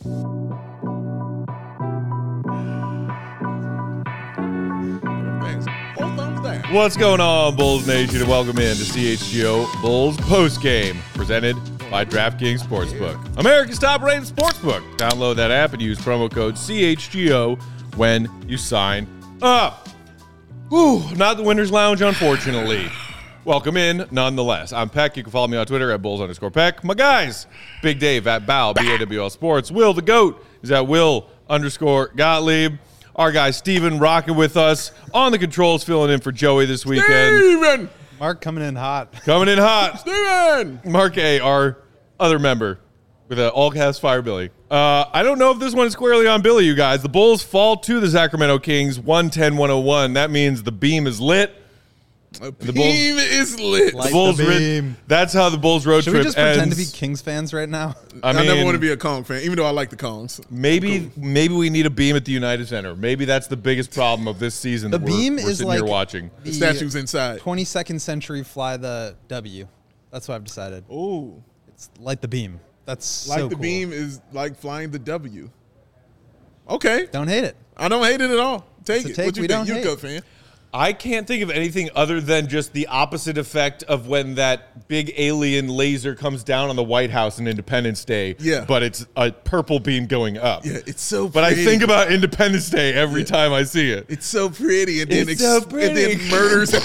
What's going on, Bulls Nation, and welcome in to CHGO Bulls Postgame, presented by DraftKings Sportsbook, America's top-rated sportsbook. Download that app and use promo code CHGO when you sign up. Whew, not the Winners Lounge, unfortunately. Welcome in, nonetheless. I'm Peck. You can follow me on Twitter at Bulls_Peck. My guys, Big Dave at Bow, BAWL Sports. Will the GOAT is at Will_Gottlieb. Our guy Steven rocking with us on the controls, filling in for Joey this weekend. Steven! Mark coming in hot. Coming in hot. Steven! Mark A, our other member with an all-cast Fire Billy. I don't know if this one is squarely on Billy, you guys. The Bulls fall to the Sacramento Kings 110-101. That means the beam is lit. The beam is lit. Light The Bulls the beam. that's how the Bulls road Should trip we just pretend ends. to be Kings fans right now? I never mean, want to be a Kong fan, even though I like the Kongs. maybe we need a beam at the United Center. Maybe that's the biggest problem of this season. The that beam we're is sitting like here watching. The statue's inside. 22nd century fly the W. That's what I've decided. Ooh. It's light the beam. That's Like so the cool. beam is like flying the W. Okay. Don't hate it. I don't hate it at all. Take It's a it. take What you we think? don't You're a hate. good fan. I can't think of anything other than just the opposite effect of when that big alien laser comes down on the White House on Independence Day. Yeah. But it's a purple beam going up. Yeah, it's so But I pretty. think about Independence Day every time I see it. It's so pretty, and then, It's so and then pretty. murders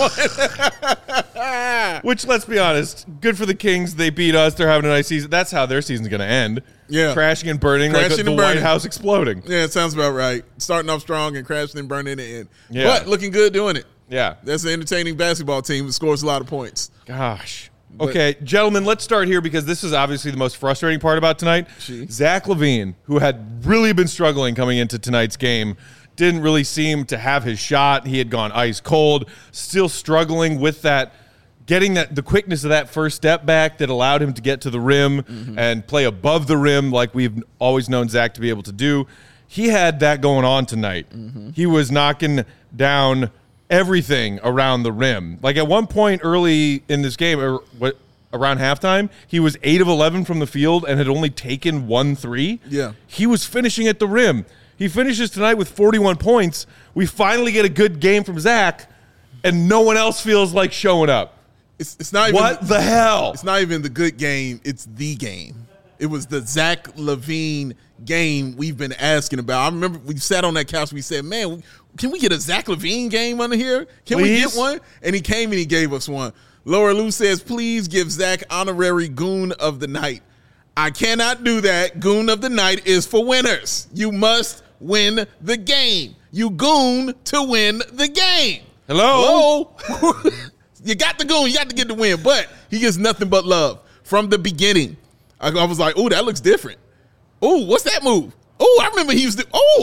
everyone. Which, let's be honest, good for the Kings. They beat us. They're having a nice season. That's how their season's going to end. Yeah. Crashing and burning like Crashing the and White burning. House exploding. Yeah, it sounds about right. Starting off strong and crashing and burning in the end. Yeah. But looking good doing it. Yeah. That's an entertaining basketball team that scores a lot of points. Gosh. Okay, gentlemen, let's start here because this is obviously the most frustrating part about tonight. Zach LaVine, who had really been struggling coming into tonight's game, didn't really seem to have his shot. He had gone ice cold, still struggling with that, getting the quickness of that first step back that allowed him to get to the rim and play above the rim like we've always known Zach to be able to do. He had that going on tonight. He was knocking down everything around the rim. Like at one point early in this game, or around halftime, he was 8 of 11 from the field and had only taken 1 3. Yeah. He was finishing at the rim. He finishes tonight with 41 points. We finally get a good game from Zach, and no one else feels like showing up. It's not even What the hell? It's not even the good game. It's the game. It was the Zach LaVine game we've been asking about. I remember we sat on that couch. We said, man, can we get a Zach LaVine game under here? Can we Please? get one? And he came and he gave us one. Laura Lou says, please give Zach honorary Goon of the Night. I cannot do that. Goon of the Night is for winners. You must win the game. You goon to win the game. Hello? You got the goon. You got to get the win. But he gets nothing but love from the beginning. I was like, oh, that looks different. Oh, what's that move? Oh, I remember he was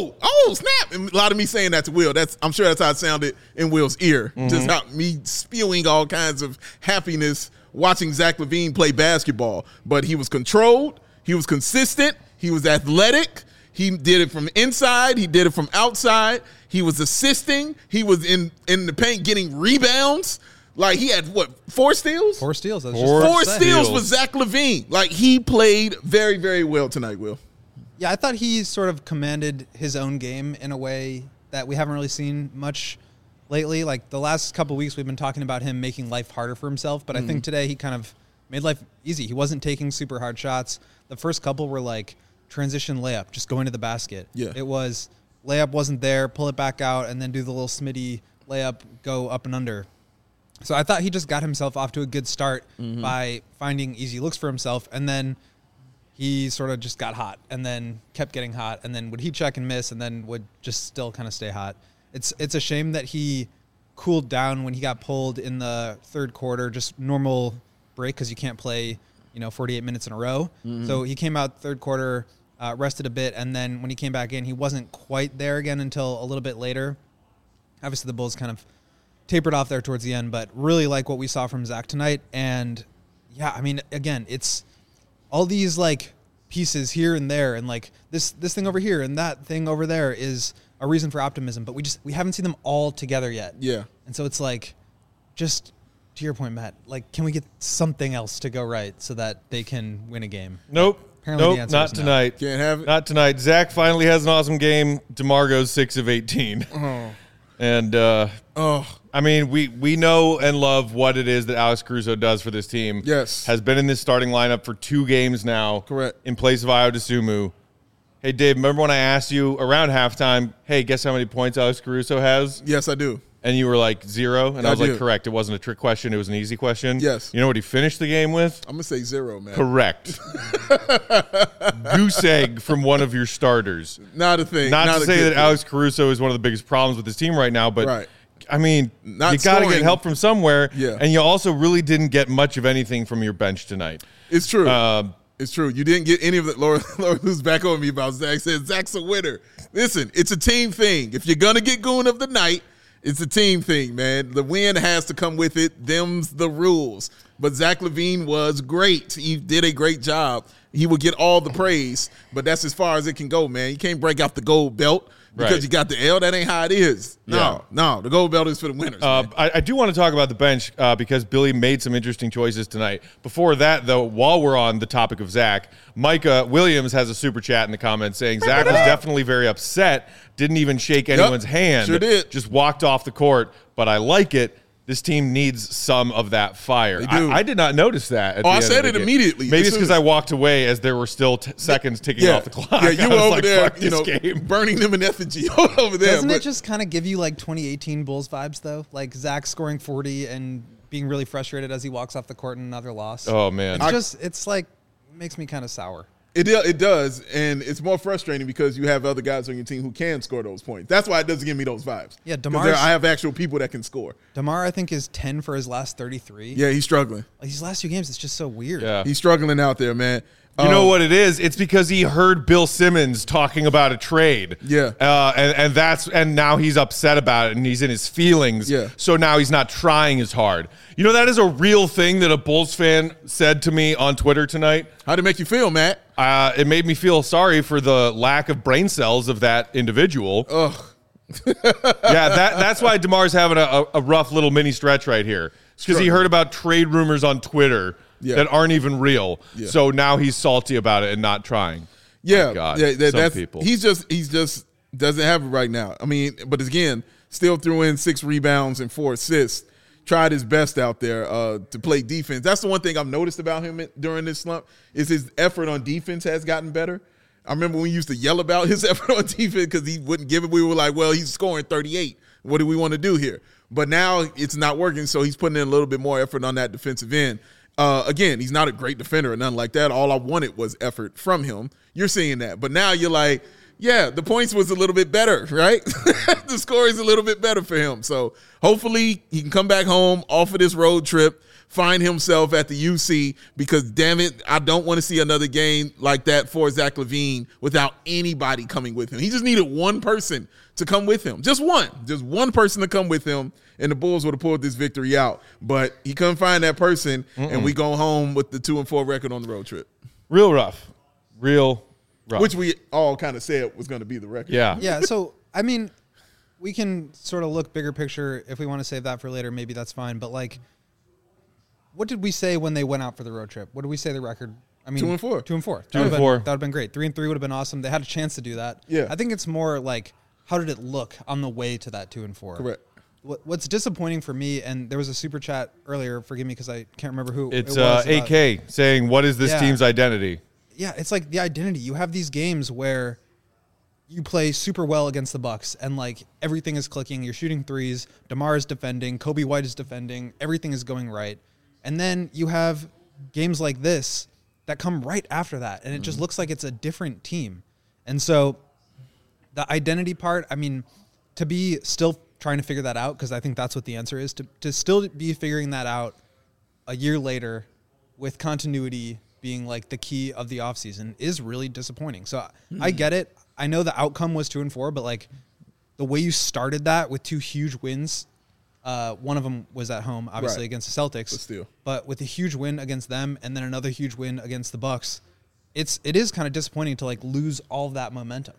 snap. And a lot of me saying that to Will. I'm sure that's how it sounded in Will's ear. Just how me spewing all kinds of happiness watching Zach LaVine play basketball. But he was controlled. He was consistent. He was athletic. He did it from inside. He did it from outside. He was assisting. He was in the paint getting rebounds. Like, he had, 4 steals? 4 steals. That's Four just 4 to say. steals with Zach LaVine. Like, he played very, very well tonight, Will. Yeah, I thought he sort of commanded his own game in a way that we haven't really seen much lately. Like the last couple of weeks, we've been talking about him making life harder for himself. But I think today he kind of made life easy. He wasn't taking super hard shots. The first couple were like transition layup, just going to the basket. Yeah. It was layup wasn't there, pull it back out, and then do the little Smitty layup, go up and under. So I thought he just got himself off to a good start by finding easy looks for himself. And then he sort of just got hot and then kept getting hot and then would heat check and miss and then would just still kind of stay hot. It's a shame that he cooled down when he got pulled in the third quarter, just normal break because you can't play, 48 minutes in a row. So he came out third quarter, rested a bit, and then when he came back in, he wasn't quite there again until a little bit later. Obviously, the Bulls kind of tapered off there towards the end, but really like what we saw from Zach tonight. And yeah, I mean, again, it's all these like pieces here and there, and like this thing over here and that thing over there is a reason for optimism, but we haven't seen them all together yet. Yeah. And so it's like, just to your point, Matt, like, can we get something else to go right so that they can win a game? Nope. Apparently Nope, the answer not is no. tonight. Can't have it. Not tonight. Zach finally has an awesome game. DeMar goes 6 of 18. And I mean, we know and love what it is that Alex Caruso does for this team. Yes. Has been in this starting lineup for 2 games now. Correct. In place of Ayo Dosunmu. Hey, Dave, remember when I asked you around halftime, hey, guess how many points Alex Caruso has? Yes, I do. And you were like 0. And I was do. like, correct. It wasn't a trick question. It was an easy question. Yes. You know what he finished the game with? I'm going to say 0, man. Correct. Goose egg from one of your starters. Not a thing. Not to a say good that thing. Alex Caruso is one of the biggest problems with this team right now, but Right. I mean, Not you got to get scoring. help from somewhere. Yeah. And you also really didn't get much of anything from your bench tonight. It's true. It's true. You didn't get any of it. Laura who's back on me about Zach said Zach's a winner. Listen, it's a team thing. If you're going to get goon of the night, it's a team thing, man. The win has to come with it. Them's the rules. But Zach LaVine was great. He did a great job. He will get all the praise, but that's as far as it can go, man. You can't break out the gold belt because Right. you got the L. That ain't how it is. No, the gold belt is for the winners. Man. I do want to talk about the bench because Billy made some interesting choices tonight. Before that, though, while we're on the topic of Zach, Micah Williams has a super chat in the comments saying Zach was definitely very upset, didn't even shake anyone's hand, sure did. Just walked off the court, but I like it. This team needs some of that fire. They do. I did not notice that. At the I end said of the it game. immediately. Maybe As it's soon because as- I walked away as there were still seconds ticking off the clock. Yeah, you I were was over like, there, fuck you know, this game. burning them in effigy over there. Doesn't but it just kind of give you like 2018 Bulls vibes though? Like Zach scoring 40 and being really frustrated as he walks off the court in another loss. Oh, man. It's like makes me kind of sour. It does, and it's more frustrating because you have other guys on your team who can score those points. That's why it doesn't give me those vibes. Yeah, 'Cause DeMar's- I have actual people that can score. DeMar I think is 10 for his last 33. Yeah, he's struggling. Like these last 2 games, it's just so weird. Yeah. He's struggling out there, man. You know what it is? It's because he heard Bill Simmons talking about a trade. Yeah. And now he's upset about it and he's in his feelings. Yeah. So now he's not trying as hard. You know, that is a real thing that a Bulls fan said to me on Twitter tonight. How'd it make you feel, Matt? It made me feel sorry for the lack of brain cells of that individual. Ugh. Yeah, that's why DeMar's having a rough little mini stretch right here. It's because he heard about trade rumors on Twitter that aren't even real. Yeah. So now he's salty about it and not trying. Yeah, My God, yeah, some that's people. He's just doesn't have it right now. I mean, but again, still threw in 6 rebounds and 4 assists. Tried his best out there to play defense. That's the one thing I've noticed about him during this slump is his effort on defense has gotten better. I remember when we used to yell about his effort on defense because he wouldn't give it. We were like, well, he's scoring 38. What do we want to do here? But now it's not working, so he's putting in a little bit more effort on that defensive end. Again, he's not a great defender or nothing like that. All I wanted was effort from him. You're seeing that. But now you're like, yeah, the points was a little bit better, right? The score is a little bit better for him. So hopefully he can come back home off of this road trip, find himself at the UC because, damn it, I don't want to see another game like that for Zach LaVine without anybody coming with him. He just needed one person to come with him. Just one person to come with him, and the Bulls would have pulled this victory out. But he couldn't find that person, and we go home with the 2-4 record on the road trip. Real rough. Real rough. Which we all kind of said was going to be the record. Yeah. Yeah, so I mean, we can sort of look bigger picture if we want to save that for later. Maybe that's fine. But like, what did we say when they went out for the road trip? What did we say the record? I mean, 2-4. 2-4. 2-4. That would have been great. 3-3 would have been awesome. They had a chance to do that. Yeah. I think it's more like, how did it look on the way to that 2-4? Correct. What's disappointing for me, and there was a super chat earlier. Forgive me because I can't remember who It's it was. AK saying, what is this Yeah. team's identity? Yeah, it's like the identity. You have these games where you play super well against the Bucks and like everything is clicking. You're shooting threes. DeMar is defending. Kobe White is defending. Everything is going right. And then you have games like this that come right after that. And it just looks like it's a different team. And so the identity part, I mean, to be still trying to figure that out, because I think that's what the answer is, to still be figuring that out a year later with continuity being like the key of the offseason is really disappointing. So I get it. I know the outcome was 2-4, but like the way you started that with 2 huge wins, one of them was at home, obviously, Right. against the Celtics. But still. But with a huge win against them and then another huge win against the Bucks, it is kind of disappointing to like lose all of that momentum.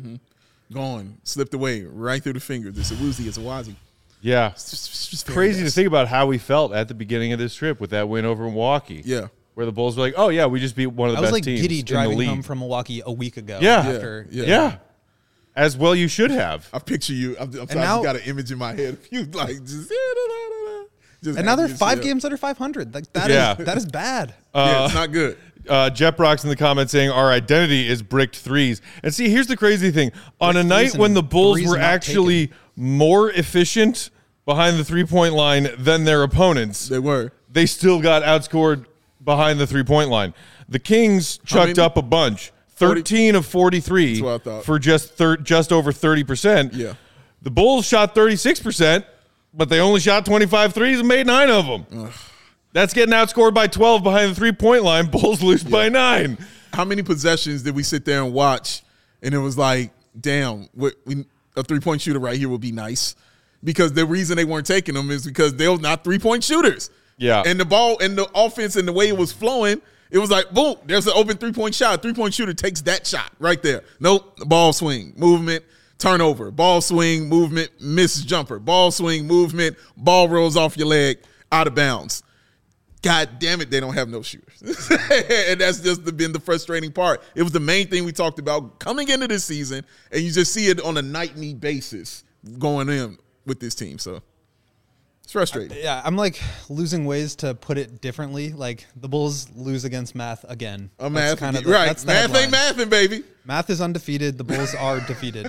Gone. Slipped away right through the fingers. It's a woozy. It's a wazi. Yeah. It's just very Crazy to nice. think about how we felt at the beginning of this trip with that win over Milwaukee. Yeah. where the Bulls were like, oh, yeah, we just beat one of the best teams Giddy in the driving league. home from Milwaukee a week ago. Yeah. Yeah. As well you should have. I picture you. I'm sorry, now, I got an image in my head of you like just and now they're 5 games under 500. Like that is bad. Yeah, it's not good. Jet Brock's in the comments saying our identity is bricked threes. And see, here's the crazy thing. On a night when the Bulls were actually more efficient behind the 3-point line than their opponents, they still got outscored behind the 3-point line. The Kings chucked up a bunch. 13 of 43 for just over 30%. Yeah. The Bulls shot 36%, but they only shot 25 threes and made 9 of them. Ugh. That's getting outscored by 12 behind the 3-point line. Bulls lose by 9. How many possessions did we sit there and watch, and it was like, damn, a 3-point shooter right here would be nice? Because the reason they weren't taking them is because they were not 3-point shooters. Yeah. And the ball and the offense and the way it was flowing, it was like, boom, there's an open 3-point shot. 3-point shooter takes that shot right there. Nope, ball swing, movement, turnover, ball swing, movement, miss jumper, ball swing, movement, ball rolls off your leg, out of bounds. God damn it, they don't have no shooters. And that's just been the frustrating part. It was the main thing we talked about coming into this season, and you just see it on a nightly basis going in with this team. So it's frustrating. I'm like losing ways to put it differently. Like the Bulls lose against math again. Math, kind of right. That's math ain't mathing, baby. Math is undefeated. The Bulls are defeated.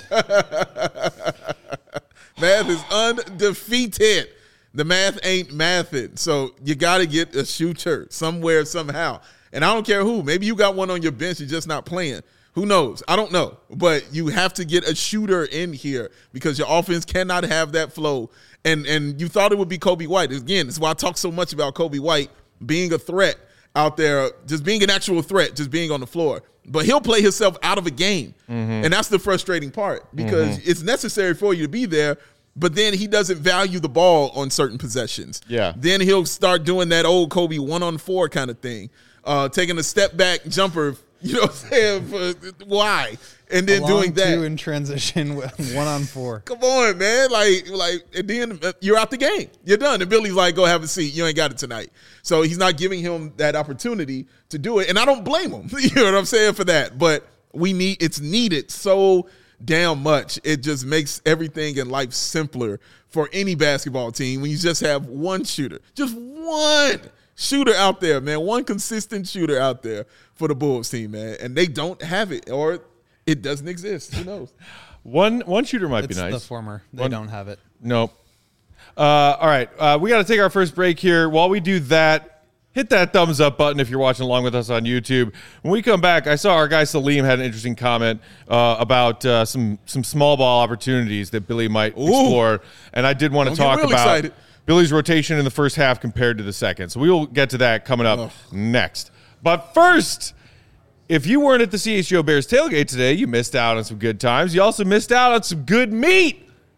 Math is undefeated. The math ain't mathing. So you got to get a shooter somewhere, somehow. And I don't care who. Maybe you got one on your bench, you're just not playing. Who knows? I don't know. But you have to get a shooter in here because your offense cannot have that flow. And you thought it would be Coby White. Again, that's why I talk so much about Coby White being a threat out there, just being an actual threat, just being on the floor. But he'll play himself out of a game. Mm-hmm. And that's the frustrating part because it's necessary for you to be there. But then he doesn't value the ball on certain possessions. Yeah. Then he'll start doing that old Kobe 1-on-4 kind of thing, taking a step back jumper. You know what I'm saying? Why? And then doing that. 2 in transition with 1-on-4. Come on, man. Like, and then you're out the game. You're done. And Billy's like, go have a seat. You ain't got it tonight. So he's not giving him that opportunity to do it. And I don't blame him. You know what I'm saying for that. But it's needed so damn much. It just makes everything in life simpler for any basketball team when you just have one shooter. Just one shooter out there, man. One consistent shooter out there for the Bulls team, man. And they don't have it, or it doesn't exist. Who knows? One shooter might be nice. It's the former. They don't have it. Nope. All right. We got to take our first break here. While we do that, hit that thumbs up button if you're watching along with us on YouTube. When we come back, I saw our guy Salim had an interesting comment about some small ball opportunities that Billy might explore. And I did want to talk about Billy's rotation in the first half compared to the second. So we will get to that coming up next. But first, if you weren't at the CHGO Bears tailgate today, you missed out on some good times. You also missed out on some good meat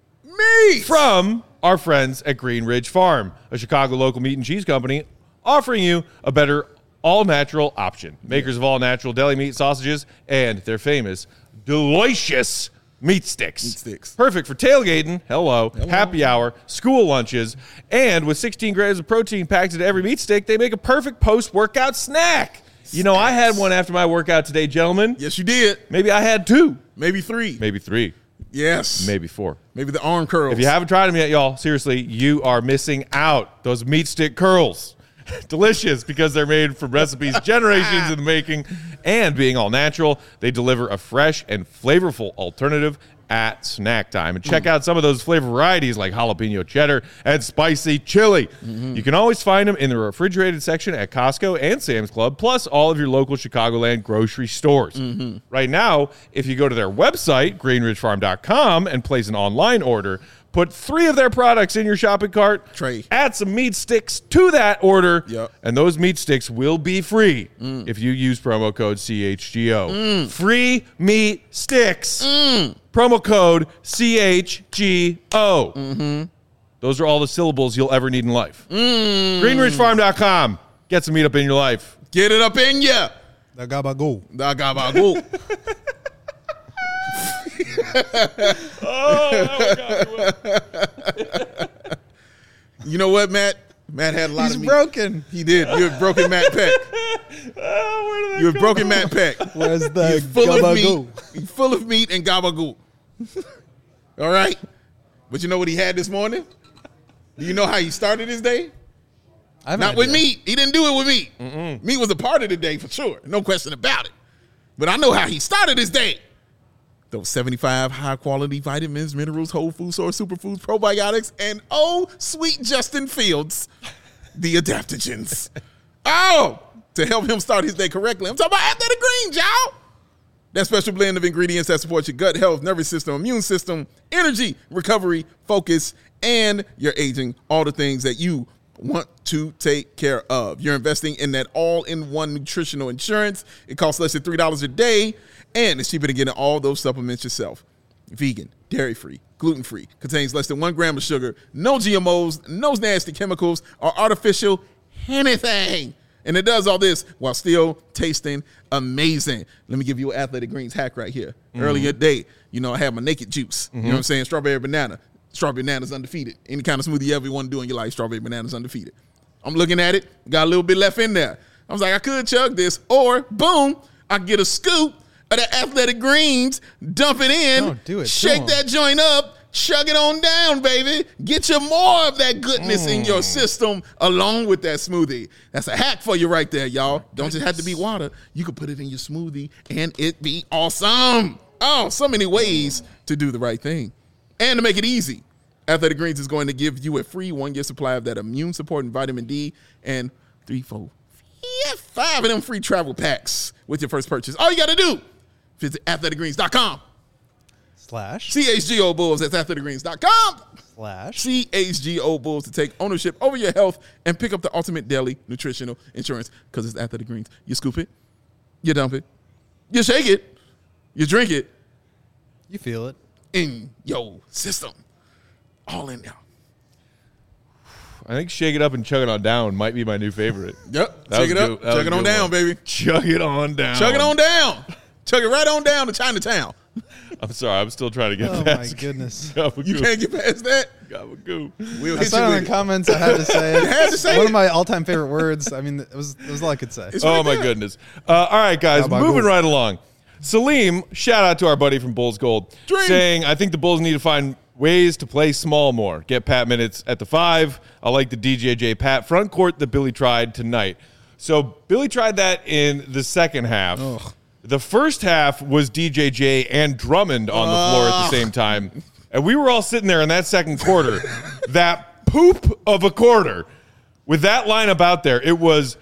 from our friends at Green Ridge Farm, a Chicago local meat and cheese company offering you a better all-natural option. Makers of all-natural deli meat sausages and their famous delicious meat sticks. Perfect for tailgating, happy hour, school lunches, and with 16 grams of protein packed into every meat stick, they make a perfect post-workout snack. You know, I had one after my workout today, gentlemen. Yes, you did. Maybe I had 2. Maybe 3. Maybe 3. Yes. Maybe 4. Maybe the arm curls. If you haven't tried them yet, y'all, seriously, you are missing out. Those meat stick curls. Delicious because they're made from recipes generations in the making, and being all natural, they deliver a fresh and flavorful alternative at snack time. And check out some of those flavor varieties like jalapeno cheddar and spicy chili. You can always find them in the refrigerated section at Costco and Sam's Club, plus all of your local Chicagoland grocery stores. Right now, if you go to their website, greenridgefarm.com, and place an online order, put 3 of their products in your shopping cart, add some meat sticks to that order, and those meat sticks will be free if you use promo code CHGO. Free meat sticks. Promo code CHGO. Those are all the syllables you'll ever need in life. GreenRidgeFarm.com. Get some meat up in your life. Get it up in ya. Da gabago. Da gabago. You know what, Matt? Matt had a lot of meat. He's broken. He did. You're broken Matt Peck. You're a broken Matt Peck. Where's the You're full of gabagool? meat. You're full of meat and gabagool. All right? But you know what he had this morning? Do you know how he started his day? Not with meat. He didn't do it with meat. Meat was a part of the day for sure. No question about it. But I know how he started his day. Those 75 high-quality vitamins, minerals, whole food source, superfoods, probiotics, and sweet Justin Fields, the adaptogens. To help him start his day correctly. I'm talking about Athletic Greens, y'all. That special blend of ingredients that supports your gut health, nervous system, immune system, energy, recovery, focus, and your aging. All the things that you want to take care of. You're investing in that all-in-one nutritional insurance. It costs less than $3 a day, and it's cheaper than getting all those supplements yourself. Vegan, dairy-free, gluten-free, contains less than 1 gram of sugar, no GMOs, no nasty chemicals, or artificial anything. And it does all this while still tasting amazing. Let me give you an Athletic Greens hack right here. Earlier today, I had my naked juice. You know what I'm saying? Strawberry banana. Strawberry banana's undefeated. Any kind of smoothie you ever want to do in your life, strawberry banana's undefeated. I'm looking at it, got a little bit left in there. I was like, I could chug this, or boom, I get a scoop of the Athletic Greens, dump it in, Don't do it. shake that joint up, chug it on down, baby. Get you more of that goodness in your system along with that smoothie. That's a hack for you right there, y'all. Don't just have to be water. You can put it in your smoothie and it be awesome. So many ways to do the right thing. And to make it easy, Athletic Greens is going to give you a free 1-year supply of that immune supporting vitamin D and 5 of them free travel packs with your first purchase. All you got to do, visit athleticgreens.com. /CHGO Bulls. That's athleticgreens.com. /CHGO Bulls to take ownership over your health and pick up the ultimate daily nutritional insurance because it's Athletic Greens. You scoop it, you dump it, you shake it, you drink it. You feel it. In your system. All in there. I think Shake It Up and Chug It On Down might be my new favorite. Yep. Shake it up. Chug it on down, baby. Chug it on down. Chug it on down. Chug it right on down to Chinatown. I'm sorry. I'm still trying to get Oh, past. my goodness. You can't get past that? Gabagoo. We'll I hit saw you it in with the comments. I had to say it. You had to say One it. of my all-time favorite words. I mean, it was all I could say. It's Oh, right my there. goodness. All right, guys, Gabagoo. moving right along. Salim, shout out to our buddy from Bulls Gold, saying, I think the Bulls need to find ways to play small more. Get Pat minutes at the 5. I like the DJJ Pat front court that Billy tried tonight. So Billy tried that in the second half. Ugh. The first half was DJJ and Drummond on the floor at the same time. And we were all sitting there in that second quarter, that poop of a quarter. With that lineup out there, it was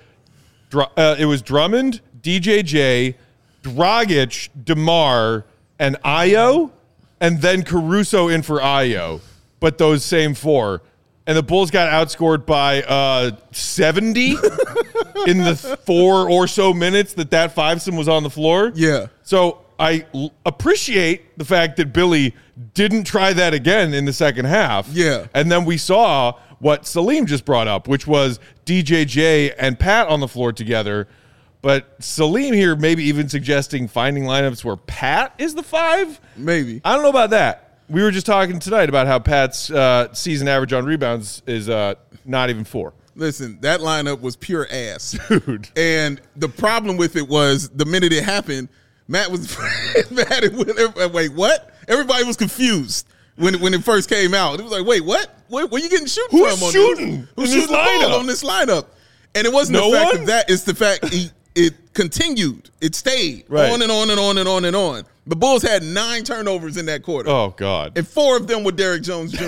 Drummond, DJJ, Dragic, DeMar, and Ayo, and then Caruso in for Ayo. But those same 4. And the Bulls got outscored by 70 in the 4 or so minutes that fivesome was on the floor. Yeah. So I appreciate the fact that Billy didn't try that again in the second half. Yeah. And then we saw what Salim just brought up, which was DJJ and Pat on the floor together. But Salim here maybe even suggesting finding lineups where Pat is the 5. Maybe. I don't know about that. We were just talking tonight about how Pat's season average on rebounds is not even 4. Listen, that lineup was pure ass. Dude. And the problem with it was the minute it happened, Matt was mad at wait, what? Everybody was confused when it first came out. It was like, wait, what? Where you getting shooting Who's from? shooting Who's in shooting this the ball lineup? on this lineup? And it wasn't No the fact one? of that. It's the fact it continued. It stayed Right. on and on and on and on and on. The Bulls had 9 turnovers in that quarter. Oh, God. And 4 of them were Derrick Jones Jr.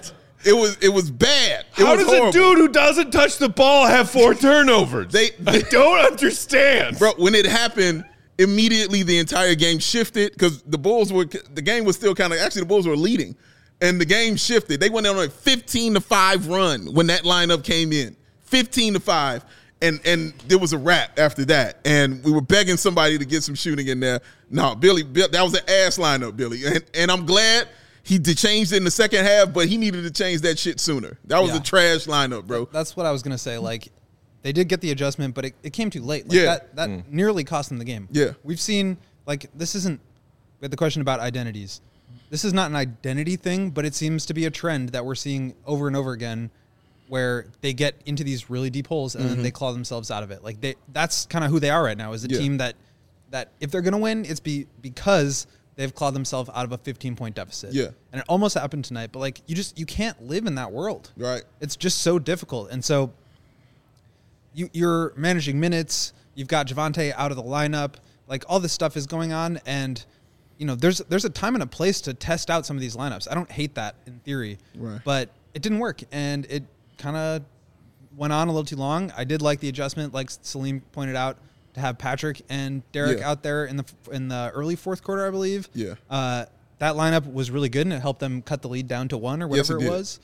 It was bad. It How was does horrible. a dude who doesn't touch the ball have 4 turnovers? They I don't understand. Bro, when it happened, immediately the entire game shifted because the game was still the Bulls were leading. And the game shifted. They went on a 15-5 run when that lineup came in. 15-5. And there was a wrap after that. And we were begging somebody to get some shooting in there. No, Billy, that was an ass lineup, Billy. And I'm glad he changed it in the second half, but he needed to change that shit sooner. That was a trash lineup, bro. That's what I was going to say. Like, they did get the adjustment, but it came too late. Like, Yeah. That nearly cost them the game. Yeah. We've seen, like, this isn't – we had the question about identities. This is not an identity thing, but it seems to be a trend that we're seeing over and over again where they get into these really deep holes and then they claw themselves out of it. Like that's kind of who they are right now, is a team that if they're going to win, it's because they've clawed themselves out of a 15-point deficit. Yeah. And it almost happened tonight, but like you can't live in that world. Right. It's just so difficult. And so you're managing minutes, you've got Javonte out of the lineup, like all this stuff is going on, and there's a time and a place to test out some of these lineups. I don't hate that in theory, but it didn't work, and it kind of went on a little too long. I did like the adjustment, like Salim pointed out, to have Patrick and Derek out there in the early fourth quarter, I believe. Yeah. That lineup was really good, and it helped them cut the lead down to 1 or whatever it was.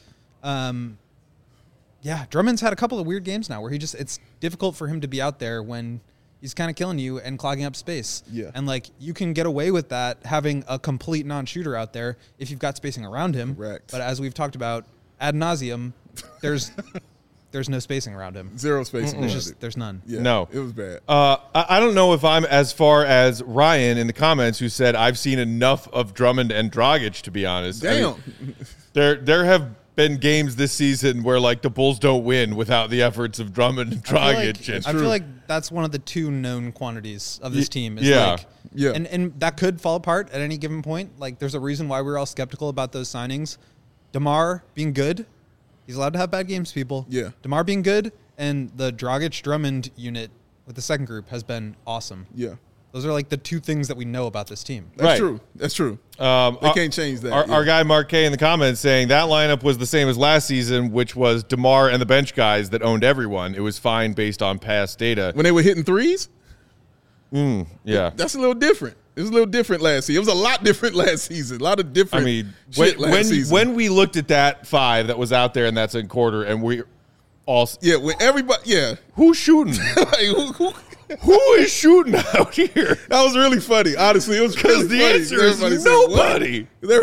Yeah, Drummond's had a couple of weird games now where it's difficult for him to be out there when he's kind of killing you and clogging up space. Yeah. And like you can get away with that having a complete non-shooter out there if you've got spacing around him. Correct. But as we've talked about ad nauseum, there's no spacing around him. Zero spacing. There's none. Yeah, No. It was bad. I don't know if I'm as far as Ryan in the comments, who said I've seen enough of Drummond and Dragic, to be honest. Damn. I mean, there have been games this season where like the Bulls don't win without the efforts of Drummond and Dragic. I feel like that's one of the two known quantities of this team. Is yeah. Like, Yeah. And that could fall apart at any given point. Like there's a reason why we're all skeptical about those signings. DeMar being good. He's allowed to have bad games, people. Yeah. DeMar being good, and the Dragic-Drummond unit with the second group has been awesome. Yeah. Those are like the two things that we know about this team. That's true. That's true. They can't change that. Our guy Mark K in the comments saying that lineup was the same as last season, which was DeMar and the bench guys that owned everyone. It was fine based on past data. When they were hitting threes? Yeah. That's a little different. It was a little different last season. It was a lot different last season. A lot of different when we looked at that 5 that was out there and that's in quarter, and we all... Yeah, when everybody... Who's shooting? Like, Who is shooting out here? That was really funny. Honestly, it was Because really the funny. answer is Everybody said, nobody.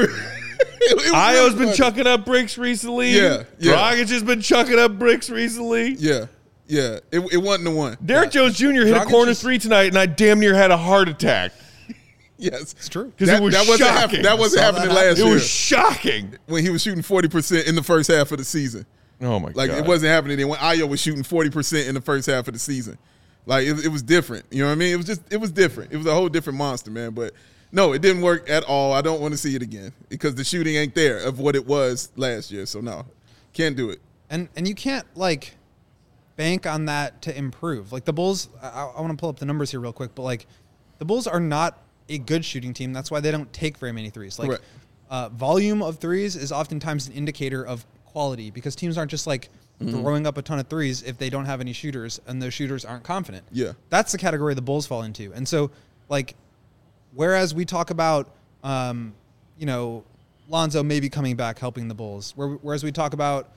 Io's been funny. chucking up bricks recently. Yeah. Dragic has been chucking up bricks recently. Yeah. It wasn't the one. Derek Jones Jr. hit a Dragic corner is- 3 tonight, and I damn near had a heart attack. Yes. It's true. Because it was shocking. That wasn't happening last It year was shocking. when he was shooting 40% in the first half of the season. Oh, my Like, God. it wasn't happening then when Io was shooting 40% in the first half of the season. Like, it was different. You know what I mean? It was different. It was a whole different monster, man. But, no, it didn't work at all. I don't want to see it again because the shooting ain't there of what it was last year. So, no, can't do it. And you can't, like, bank on that to improve. Like, the Bulls, I want to pull up the numbers here real quick, but, like, the Bulls are not a good shooting team. That's why they don't take very many threes. Like, volume of threes is oftentimes an indicator of quality because teams aren't just, like, throwing up a ton of threes if they don't have any shooters and those shooters aren't confident. Yeah. That's the category the Bulls fall into. And so, like, whereas we talk about, Lonzo maybe coming back helping the Bulls, whereas we talk about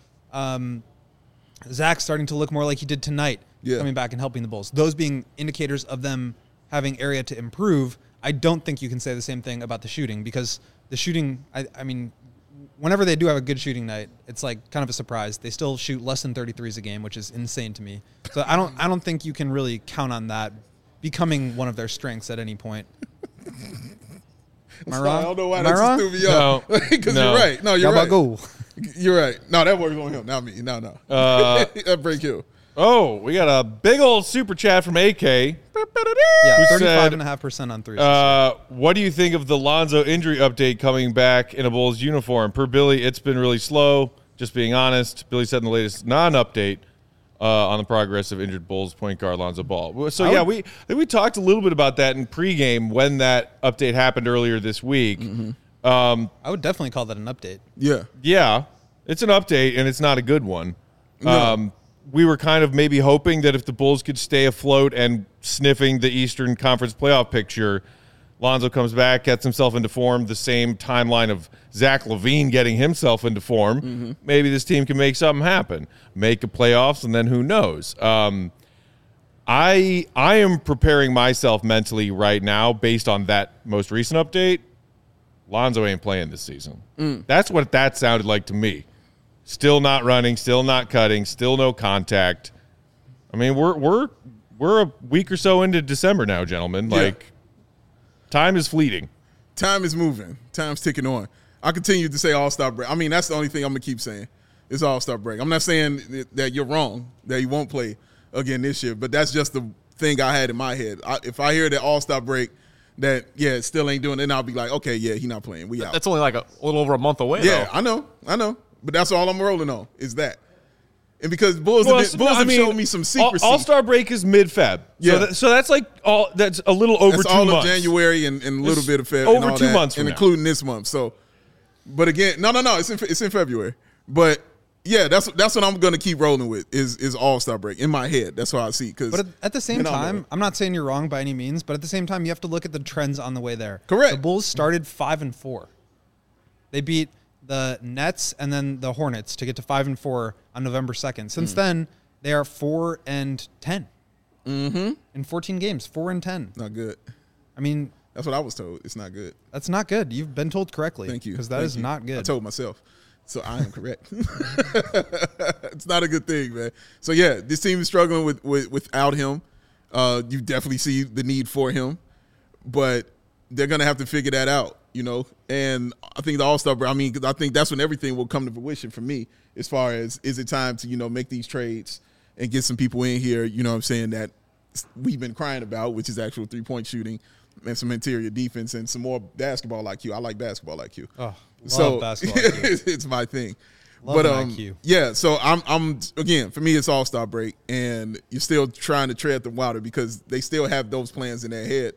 Zach starting to look more like he did tonight, coming back and helping the Bulls, those being indicators of them having area to improve, I don't think you can say the same thing about the shooting because the shooting, I mean, whenever they do have a good shooting night, it's like kind of a surprise. They still shoot less than 33s a game, which is insane to me. So I don't think you can really count on that becoming one of their strengths at any point. Am I wrong? I don't know why Am I that wrong? just threw me off. Because No. you're right. No, you're Y'all right. about go. You're right. No, that works on him, not me. No. That break you. Oh, we got a big old super chat from AK. Yeah, Who said, 35.5% on threes. what do you think of the Lonzo injury update coming back in a Bulls uniform? Per Billy, it's been really slow. Just being honest, Billy said in the latest non-update on the progress of injured Bulls point guard Lonzo Ball. So, I think we talked a little bit about that in pregame when that update happened earlier this week. I would definitely call that an update. Yeah. Yeah, it's an update, and it's not a good one. No. We were kind of maybe hoping that if the Bulls could stay afloat and sniffing the Eastern Conference playoff picture, Lonzo comes back, gets himself into form, the same timeline of Zach LaVine getting himself into form. Maybe this team can make something happen, make a playoffs, and then who knows? I am preparing myself mentally right now based on that most recent update. Lonzo ain't playing this season. That's what that sounded like to me. Still not running, still not cutting, still no contact. I mean, we're a week or so into December now, gentlemen. Like, time is fleeting. Time is moving. Time's ticking on. I continue to say all-star break. I mean, that's the only thing I'm going to keep saying. It's All-Star break. I'm not saying that you're wrong, that he won't play again this year, but that's just the thing I had in my head. If I hear that All-Star break, that, it still ain't doing it, then I'll be like, okay, he's not playing. We out. That's only like a little over a month away, Yeah, though. I know. But that's all I'm rolling on is that. And because Bulls have shown me some secrecy. All-Star break is mid-Feb. Yeah. So that's like that's a little over 2 months. That's all of January and a little bit of Feb. Over and all 2 that, months from and now. including this month. So, but again, no, it's in February. But yeah, that's what I'm going to keep rolling with is All-Star break in my head. That's how I see. But at the same time, I'm not saying you're wrong by any means. But at the same time, you have to look at the trends on the way there. Correct. The Bulls started 5-4. They beat the Nets and then the Hornets to get to 5-4 on November 2nd. Since then, they are 4-10. In 14 games, 4-10. Not good. I mean, that's what I was told. It's not good. That's not good. You've been told correctly. Thank you. Because that is not good. I told myself. So I am correct. It's not a good thing, man. So yeah, this team is struggling without him. You definitely see the need for him, but they're gonna have to figure that out, And I think the All-Star break. I mean, I think that's when everything will come to fruition for me. As far as is it time to make these trades and get some people in here, what I'm saying, that we've been crying about, which is actual 3-point shooting and some interior defense and some more basketball IQ. I like basketball IQ. Oh, love basketball IQ. It's my thing. Love IQ. Yeah, so I'm again, for me it's All-Star break, and you're still trying to tread the water because they still have those plans in their head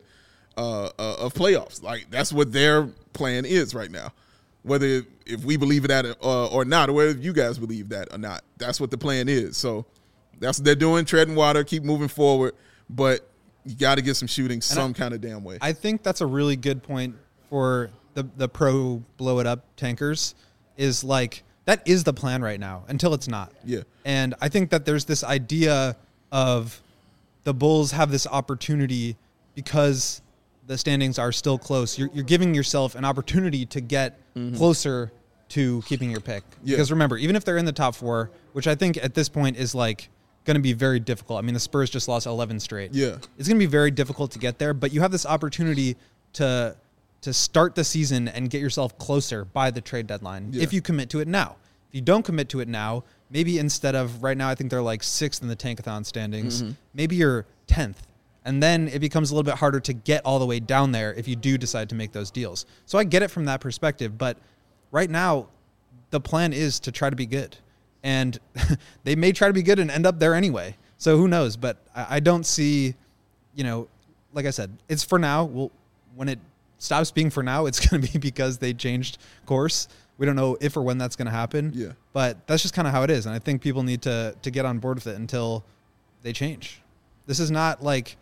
of playoffs. Like that's what their plan is right now. Whether if we believe that or not, or whether you guys believe that or not, that's what the plan is. So that's what they're doing, treading water, keep moving forward, but you got to get some shooting some kind of damn way. I think that's a really good point for the pro blow it up tankers is like that is the plan right now until it's not. Yeah. And I think that there's this idea of the Bulls have this opportunity because the standings are still close. You're giving yourself an opportunity to get closer to keeping your pick. Yeah. Because remember, even if they're in the top 4, which I think at this point is like going to be very difficult. I mean, the Spurs just lost 11 straight. Yeah. It's going to be very difficult to get there, but you have this opportunity to start the season and get yourself closer by the trade deadline if you commit to it now. If you don't commit to it now, maybe instead of right now, I think they're like 6th in the Tankathon standings, maybe you're 10th. And then it becomes a little bit harder to get all the way down there if you do decide to make those deals. So I get it from that perspective, but right now the plan is to try to be good. And they may try to be good and end up there anyway. So who knows? But I don't see, like I said, it's for now. When it stops being for now, it's going to be because they changed course. We don't know if or when that's going to happen. Yeah. But that's just kind of how it is. And I think people need to get on board with it until they change. This is not like